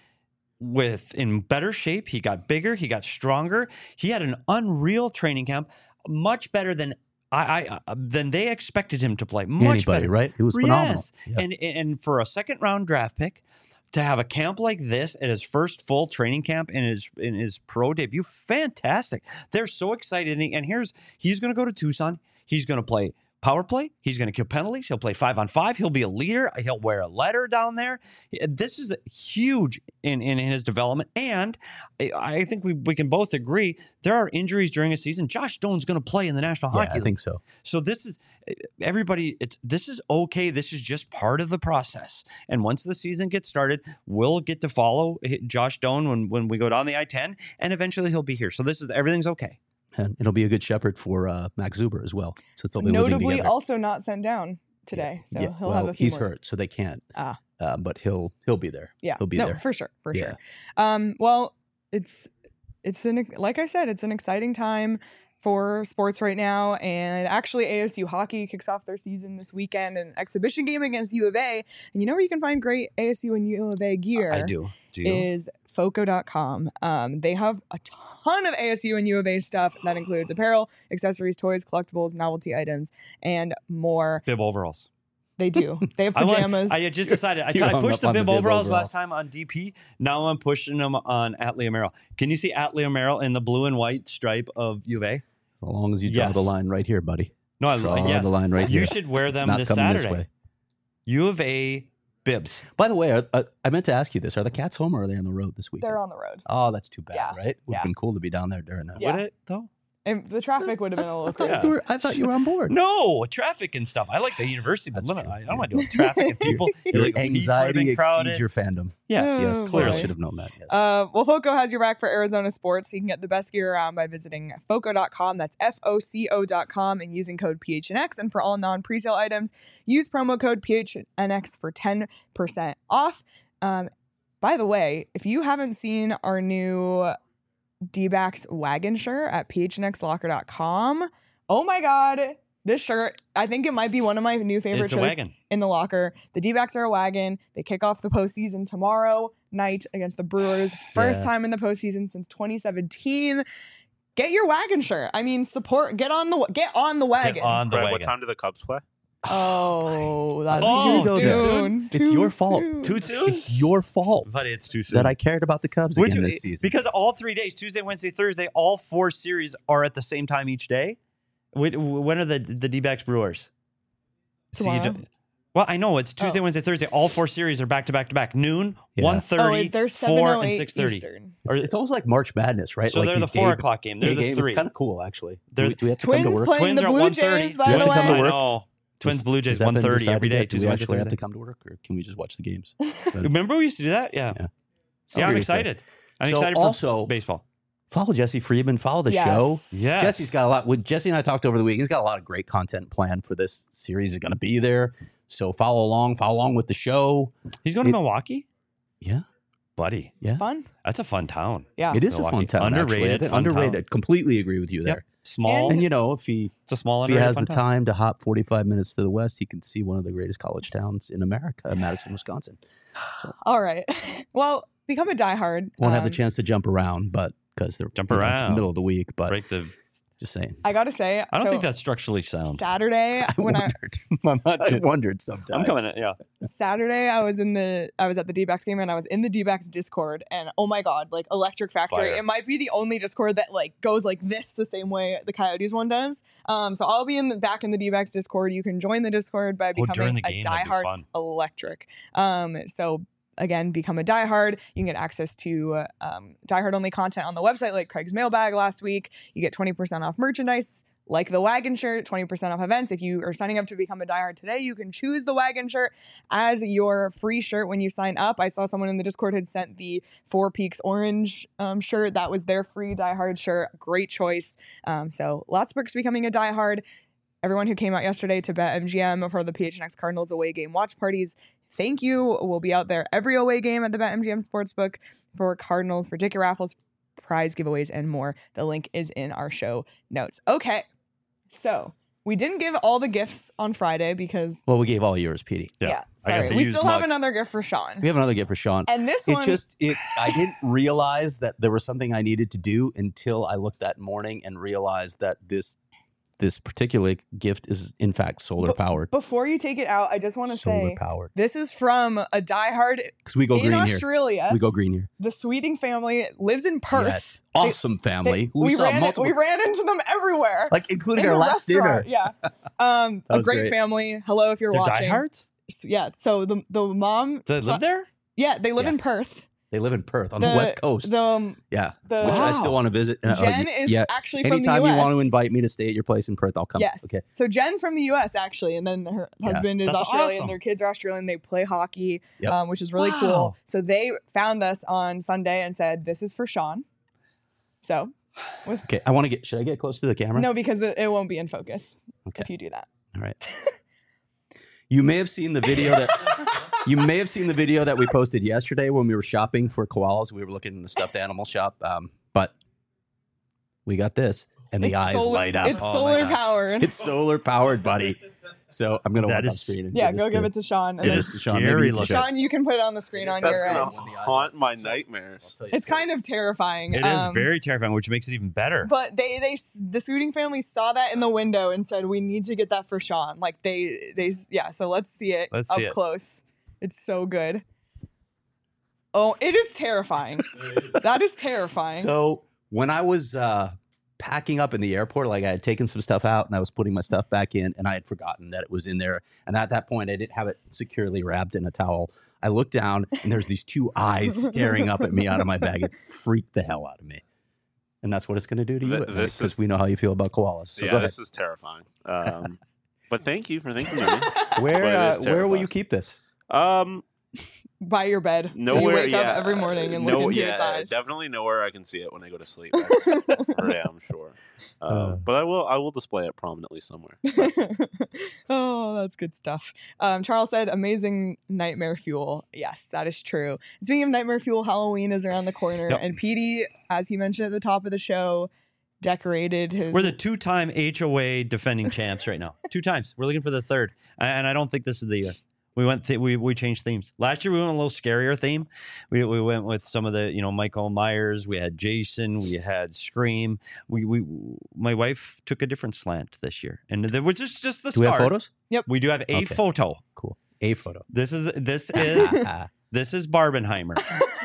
in better shape. He got bigger. He got stronger. He had an unreal training camp, much better than they expected him to play. Much better, right? It was phenomenal. Yes. Yeah. And for a second round draft pick, to have a camp like this at his first full training camp in his pro debut, fantastic. They're so excited. And he's going to go to Tucson. He's going to play power play. He's going to kill penalties. He'll play 5-on-5. He'll be a leader. He'll wear a letter down there. This is huge in his development. And I think we can both agree there are injuries during a season. Josh Doan's going to play in the National Hockey League. I think so. So this is everybody. This is okay. This is just part of the process. And once the season gets started, we'll get to follow Josh Doan when we go down the I-10, and eventually he'll be here. So everything's okay. And it'll be a good shepherd for Max Zuber as well. Since they'll be notably also not sent down today. So he'll have a few he's more. hurt, so they can't. But he'll be there. Yeah. He'll be there. For sure. Well, it's like I said, it's an exciting time for sports right now. And actually ASU hockey kicks off their season this weekend, an exhibition game against U of A. And you know where you can find great ASU and U of A gear? I do. Do you? Is Foco.com. They have a ton of ASU and U of A stuff that includes apparel, accessories, toys, collectibles, novelty items, and more. Bib overalls. They do. They have pajamas. I just decided. I pushed the bib overalls last time on DP. Now I'm pushing them on Atlee Merrill. Can you see Atlee Merrill in the blue and white stripe of U of A? As long as you draw the line right here, buddy. No, draw the line right here. You should wear them this coming Saturday. This way. U of A bibs. By the way, I meant to ask you this. Are the Cats home or are they on the road this week? They're on the road. Oh, that's too bad, Yeah. right? Would have been cool to be down there during that. Yeah. Would it, though? And the traffic would have been a little I crazy. thought you were on board. No, traffic and stuff. I like the university, but That's I don't want to deal with traffic and people. Your Like, the beach would've anxiety been crowded. exceeds your fandom. Yes, Oh, Yes, boy. clearly should have known that. Yes. Well, Foco has your back for Arizona sports. You can get the best gear around by visiting Foco.com. That's FOCO.com and using code PHNX. And for all non-presale items, use promo code PHNX for 10% off. by the way, if you haven't seen our new D-backs wagon shirt at phnxlocker.com, oh my God, this shirt, I think it might be one of my new favorite It's a shirts wagon. in the locker. The D-backs are a wagon. They kick off the postseason tomorrow night against the Brewers. First time in the postseason since 2017. Get your wagon shirt. I mean, support. Get on the wagon. Get on the Brett, wagon. what time do the Cubs play? Oh, that's Oh, too too soon. It's Too your fault. soon. Too soon? It's your fault But it's too soon. that I cared about the Cubs Which- again this season. Because all 3 days, Tuesday, Wednesday, Thursday, all 4 series are at the same time each day. When are the D-backs Brewers? See, Tomorrow. well, I know it's Tuesday, Oh. Wednesday, Thursday. All 4 series are back to back to back. Noon, Yeah. 1:30, they're 4, and 7:08 6:30. Eastern. It's almost like March Madness, right? So like they're the these 4 day- o'clock game. They're day the games. 3. It's kind of cool, actually. They're- Do we have to Twins come to work? playing Twins the are Blue 1:30. Jays, by Do we the have to come to way. work? I know. Twins Blue Jays Has that been 1:30 every decided day. yet? Do we Tuesday, Wednesday, actually have to Thursday. come to work, or can we just watch the games? Remember we used to do that? Yeah. Yeah. Yeah, I'm Seriously. excited. I'm So excited also- for baseball. Follow Jesse Friedman. Follow the Yes. show. Yeah. Jesse's got a lot. With Jesse and I talked over the week. He's got a lot of great content planned for this series. Is going to be there. So follow along with the show. He's going to Milwaukee? Yeah, Buddy, Fun. that's a fun town. Yeah. it is Milwaukee. a fun town. Underrated, Actually. fun Underrated. town. Completely agree with you there. Yep. Small. And you know, if he It's a small if he underrated has fun the town. time to hop 45 minutes to the west, he can see one of the greatest college towns in America, Madison, Wisconsin. All right. Well, become a diehard. Won't have the chance to jump around, but because they're Jump it's the around. middle of the week. But Break the. just saying, I gotta say, I don't so think that's structurally sound. Saturday when I wondered sometimes. I'm coming in. Yeah. Saturday I was at the D-backs game and I was in the D-backs Discord and oh my God, like Electric Factory. Fire. It might be the only Discord that like goes like this the same way the Coyotes one does. So I'll be back in the D-backs Discord. You can join the Discord by during becoming the a game, that'd be diehard fun. Electric. So again, become a diehard. You can get access to diehard only content on the website, like Craig's mailbag last week. You get 20% off merchandise, like the wagon shirt, 20% off events. If you are signing up to become a diehard today, you can choose the wagon shirt as your free shirt when you sign up. I saw someone in the Discord had sent the Four Peaks orange shirt. That was their free diehard shirt. Great choice. So lots of perks becoming a diehard. Everyone who came out yesterday to BetMGM for the PHNX Cardinals away game watch parties, thank you. We'll be out there every away game at the BetMGM Sportsbook for Cardinals, for ticket raffles, prize giveaways, and more. The link is in our show notes. Okay, so we didn't give all the gifts on Friday because, Well, we gave all yours, Petey. Yeah. yeah, I got sorry. the We used still have mug. another gift for Sean. We have another gift for Sean. And this one, I didn't realize that there was something I needed to do until I looked that morning and realized that this particular gift is in fact solar powered. before you take it out, I just want to Solar say powered. this is from a diehard Because we go in green here. Australia. We go green here. The Sweeting family lives in Perth. Yes. Awesome family. We saw ran into them everywhere. like including in our the last dinner. restaurant. Yeah. A was great great. family. Hello, if you're They're watching. diehards? Yeah. So the mom. Do they live there? Yeah, they live Yeah. in Perth. They live in Perth on the West Coast. The yeah. Which I still want to visit. Jen is yeah. actually from the Anytime US. you want to invite me to stay at your place in Perth, I'll come. Yes. Okay. So Jen's from the U.S. actually, and then her Yeah. husband is That's Australian. awesome. Their kids are Australian. They play hockey, Yep. which is really Wow. cool. So they found us on Sunday and said, "This is for Sean." So Okay. I want to get. Should I get close to the camera? no, because it won't be in focus Okay. if you do that. All right. You may have seen the video that we posted yesterday when we were shopping for koalas. We were looking in the stuffed animal shop, but we got this, and the It's eyes light up. It's Oh my solar God. powered. It's solar powered, buddy. So I'm gonna That walk on is- screen. And Yeah, give go this give to- it to Sean. And give then, this to Sean. Maybe Scary you can looking. show it. Sean, you can put it on the screen on That's your gonna end. haunt my nightmares. It's kind of terrifying. It is very terrifying, which makes it even better. But the Sooting family saw that in the window and said, "We need to get that for Sean." Like yeah. So let's see it Let's up see it. close. It's so good. Oh, it is terrifying. That is terrifying. So when I was packing up in the airport, like I had taken some stuff out and I was putting my stuff back in, and I had forgotten that it was in there. And at that point, I didn't have it securely wrapped in a towel. I looked down and there's these two eyes staring up at me out of my bag. It freaked the hell out of me. And that's what it's going to do to you Th- this because is- we know how you feel about koalas. So Yeah, go ahead. this is terrifying. But thank you for thinking of me. Where but it is will you terrifying. keep this? by your bed. Nowhere, so you wake yeah, up every morning and look into yeah, its eyes. definitely nowhere I can see it when I go to sleep. That's for damn sure. But I will display it prominently somewhere. Oh, that's good stuff. Charles said, amazing nightmare fuel. Yes, that is true. Speaking of nightmare fuel, Halloween is around the corner. Yep. And Petey, as he mentioned at the top of the show, decorated his... We're the 2-time HOA defending champs right now. 2 times. We're looking for the 3rd. And I don't think this is the year. We went. We changed themes. Last year we went a little scarier theme. We went with some of the Michael Myers. We had Jason. We had Scream. My wife took a different slant this year, and there was just the start. Do we have photos? Yep. We do have a Okay. photo. Cool. A photo. This is Barbenheimer.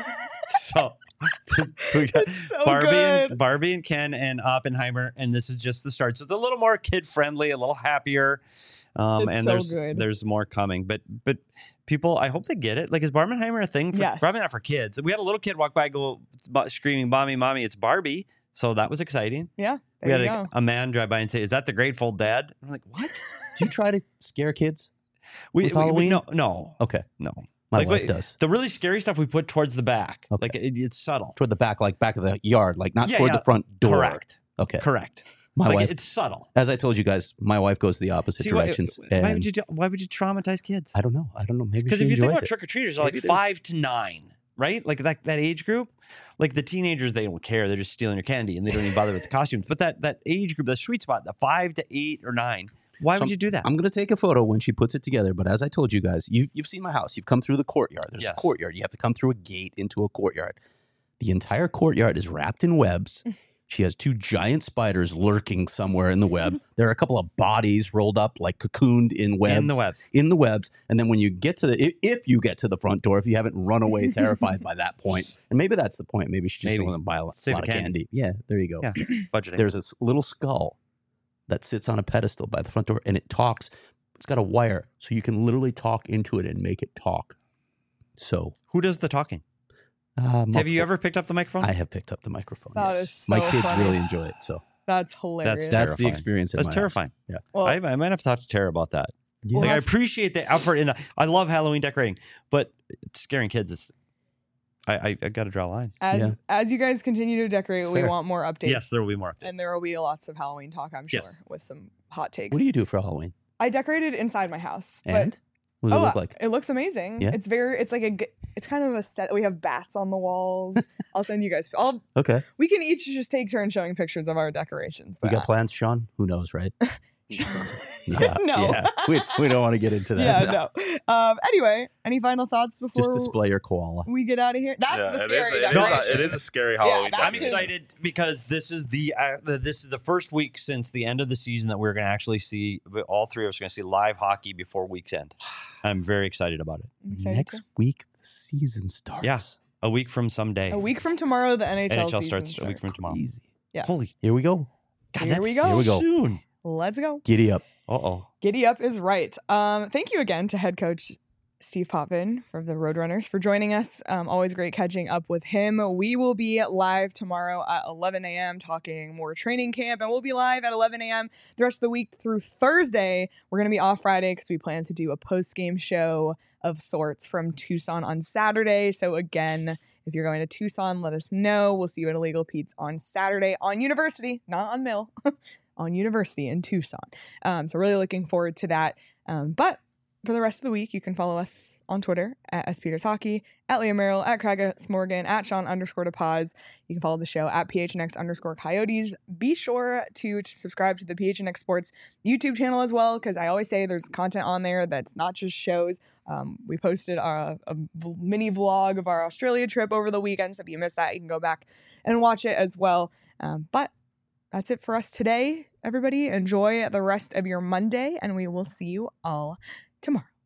So we got It's so good. Barbie and Ken and Oppenheimer, and this is just the start. So it's a little more kid friendly, a little happier. It's And so good. there's more coming, but people, I hope they get it. Like, is Barbenheimer a thing? Yes. Probably not for kids. We had a little kid walk by, screaming, "Mommy, it's Barbie!" So that was exciting. Yeah, We there had you go. a man drive by and say, "Is that the Grateful Dead?" I'm like, "What?" Do you try to scare kids? With Halloween? No. Okay. No. My Like, wife wait, does. The really scary stuff we put towards the back. Okay. Like it's subtle. Toward the back, like back of the yard, like not Yeah, toward yeah. the front door. Correct. Okay. Correct. My Like wife, it's subtle. as I told you guys, my wife goes the opposite See, directions. why and would you traumatize kids? I don't know. Maybe Because she if you think enjoys about it. trick or treaters, they're like Maybe there's- 5 to 9, right? Like that age group. Like the teenagers, they don't care. They're just stealing your candy and they don't even bother with the costumes. But that age group, the sweet spot, the 5 to 8 or 9. Why So would you do that? I'm going to take a photo when she puts it together. But as I told you guys, you've seen my house. You've come through the courtyard. There's Yes. a courtyard. You have to come through a gate into a courtyard. The entire courtyard is wrapped in webs. She has 2 giant spiders lurking somewhere in the web. There are a couple of bodies rolled up, like cocooned in webs. In the webs. And then when you get to if you get to the front door, if you haven't run away terrified by that point, and maybe that's the point. Maybe she just Maybe. doesn't want to buy a lot Save of the candy. candy. Yeah, there you go. Yeah, budgeting. There's this little skull that sits on a pedestal by the front door, and it talks. It's got a wire, so you can literally talk into it and make it talk. So, Who does the talking? Have you multiple- ever picked up the microphone? I have picked up the microphone. That yes. is so My kids funny. really enjoy it. So That's hilarious. that's the Terrifying. experience. In That's my house. terrifying. Yeah. well, I might have to talk to Tara about that. Yeah. Like, I appreciate the effort in. I love Halloween decorating, but scaring kids is. I got to draw a line. Yeah. as you guys continue to decorate, It's we fair. want more updates. Yes, there will be more. Updates. And there will be lots of Halloween talk, I'm sure, Yes. with some hot takes. What do you do for Halloween? I decorated inside my house. And But what does it look like? It looks amazing. Yeah? It's like it's kind of a set. We have bats on the walls. I'll send you guys. Okay. We can each just take turns showing pictures of our decorations. We but got plans, Sean? Who knows, right? Yeah. No. Yeah. We don't want to get into that. Yeah, no. Anyway, any final thoughts before Just display your koala. we get out of here? That's Yeah, the it is- scary it is decoration. it is a scary Halloween. that's I'm it. excited because this is the first week since the end of the season that we're going to actually see. All 3 of us are going to see live hockey before week's end. I'm very excited about it. I'm excited Next too. week, the season starts. Yeah. A week from someday. A week from tomorrow, the NHL season starts a week from tomorrow. Easy. Yeah. Holy. Here we go. God, Here that's we go. Here we go. Soon. Let's go. Giddy up. Uh-oh. Giddy up is right. Thank you again to head coach Steve Potvin from the Roadrunners for joining us. Always great catching up with him. We will be live tomorrow at 11 a.m. talking more training camp, and we'll be live at 11 a.m. the rest of the week through Thursday. We're going to be off Friday because we plan to do a post-game show of sorts from Tucson on Saturday. So again, if you're going to Tucson, let us know. We'll see you at Illegal Pete's on Saturday on University, not on Mill. On University in Tucson. So really looking forward to that. But for the rest of the week, you can follow us on Twitter at SPeters Hockey, at Liam Merrill, at Kragus Morgan, at Sean_DePaz. You can follow the show at PHNX_Coyotes. Be sure to subscribe to the PHNX Sports YouTube channel as well, because I always say there's content on there that's not just shows. We posted a mini vlog of our Australia trip over the weekend, so if you missed that, you can go back and watch it as well. But that's it for us today, everybody. Enjoy the rest of your Monday, and we will see you all tomorrow.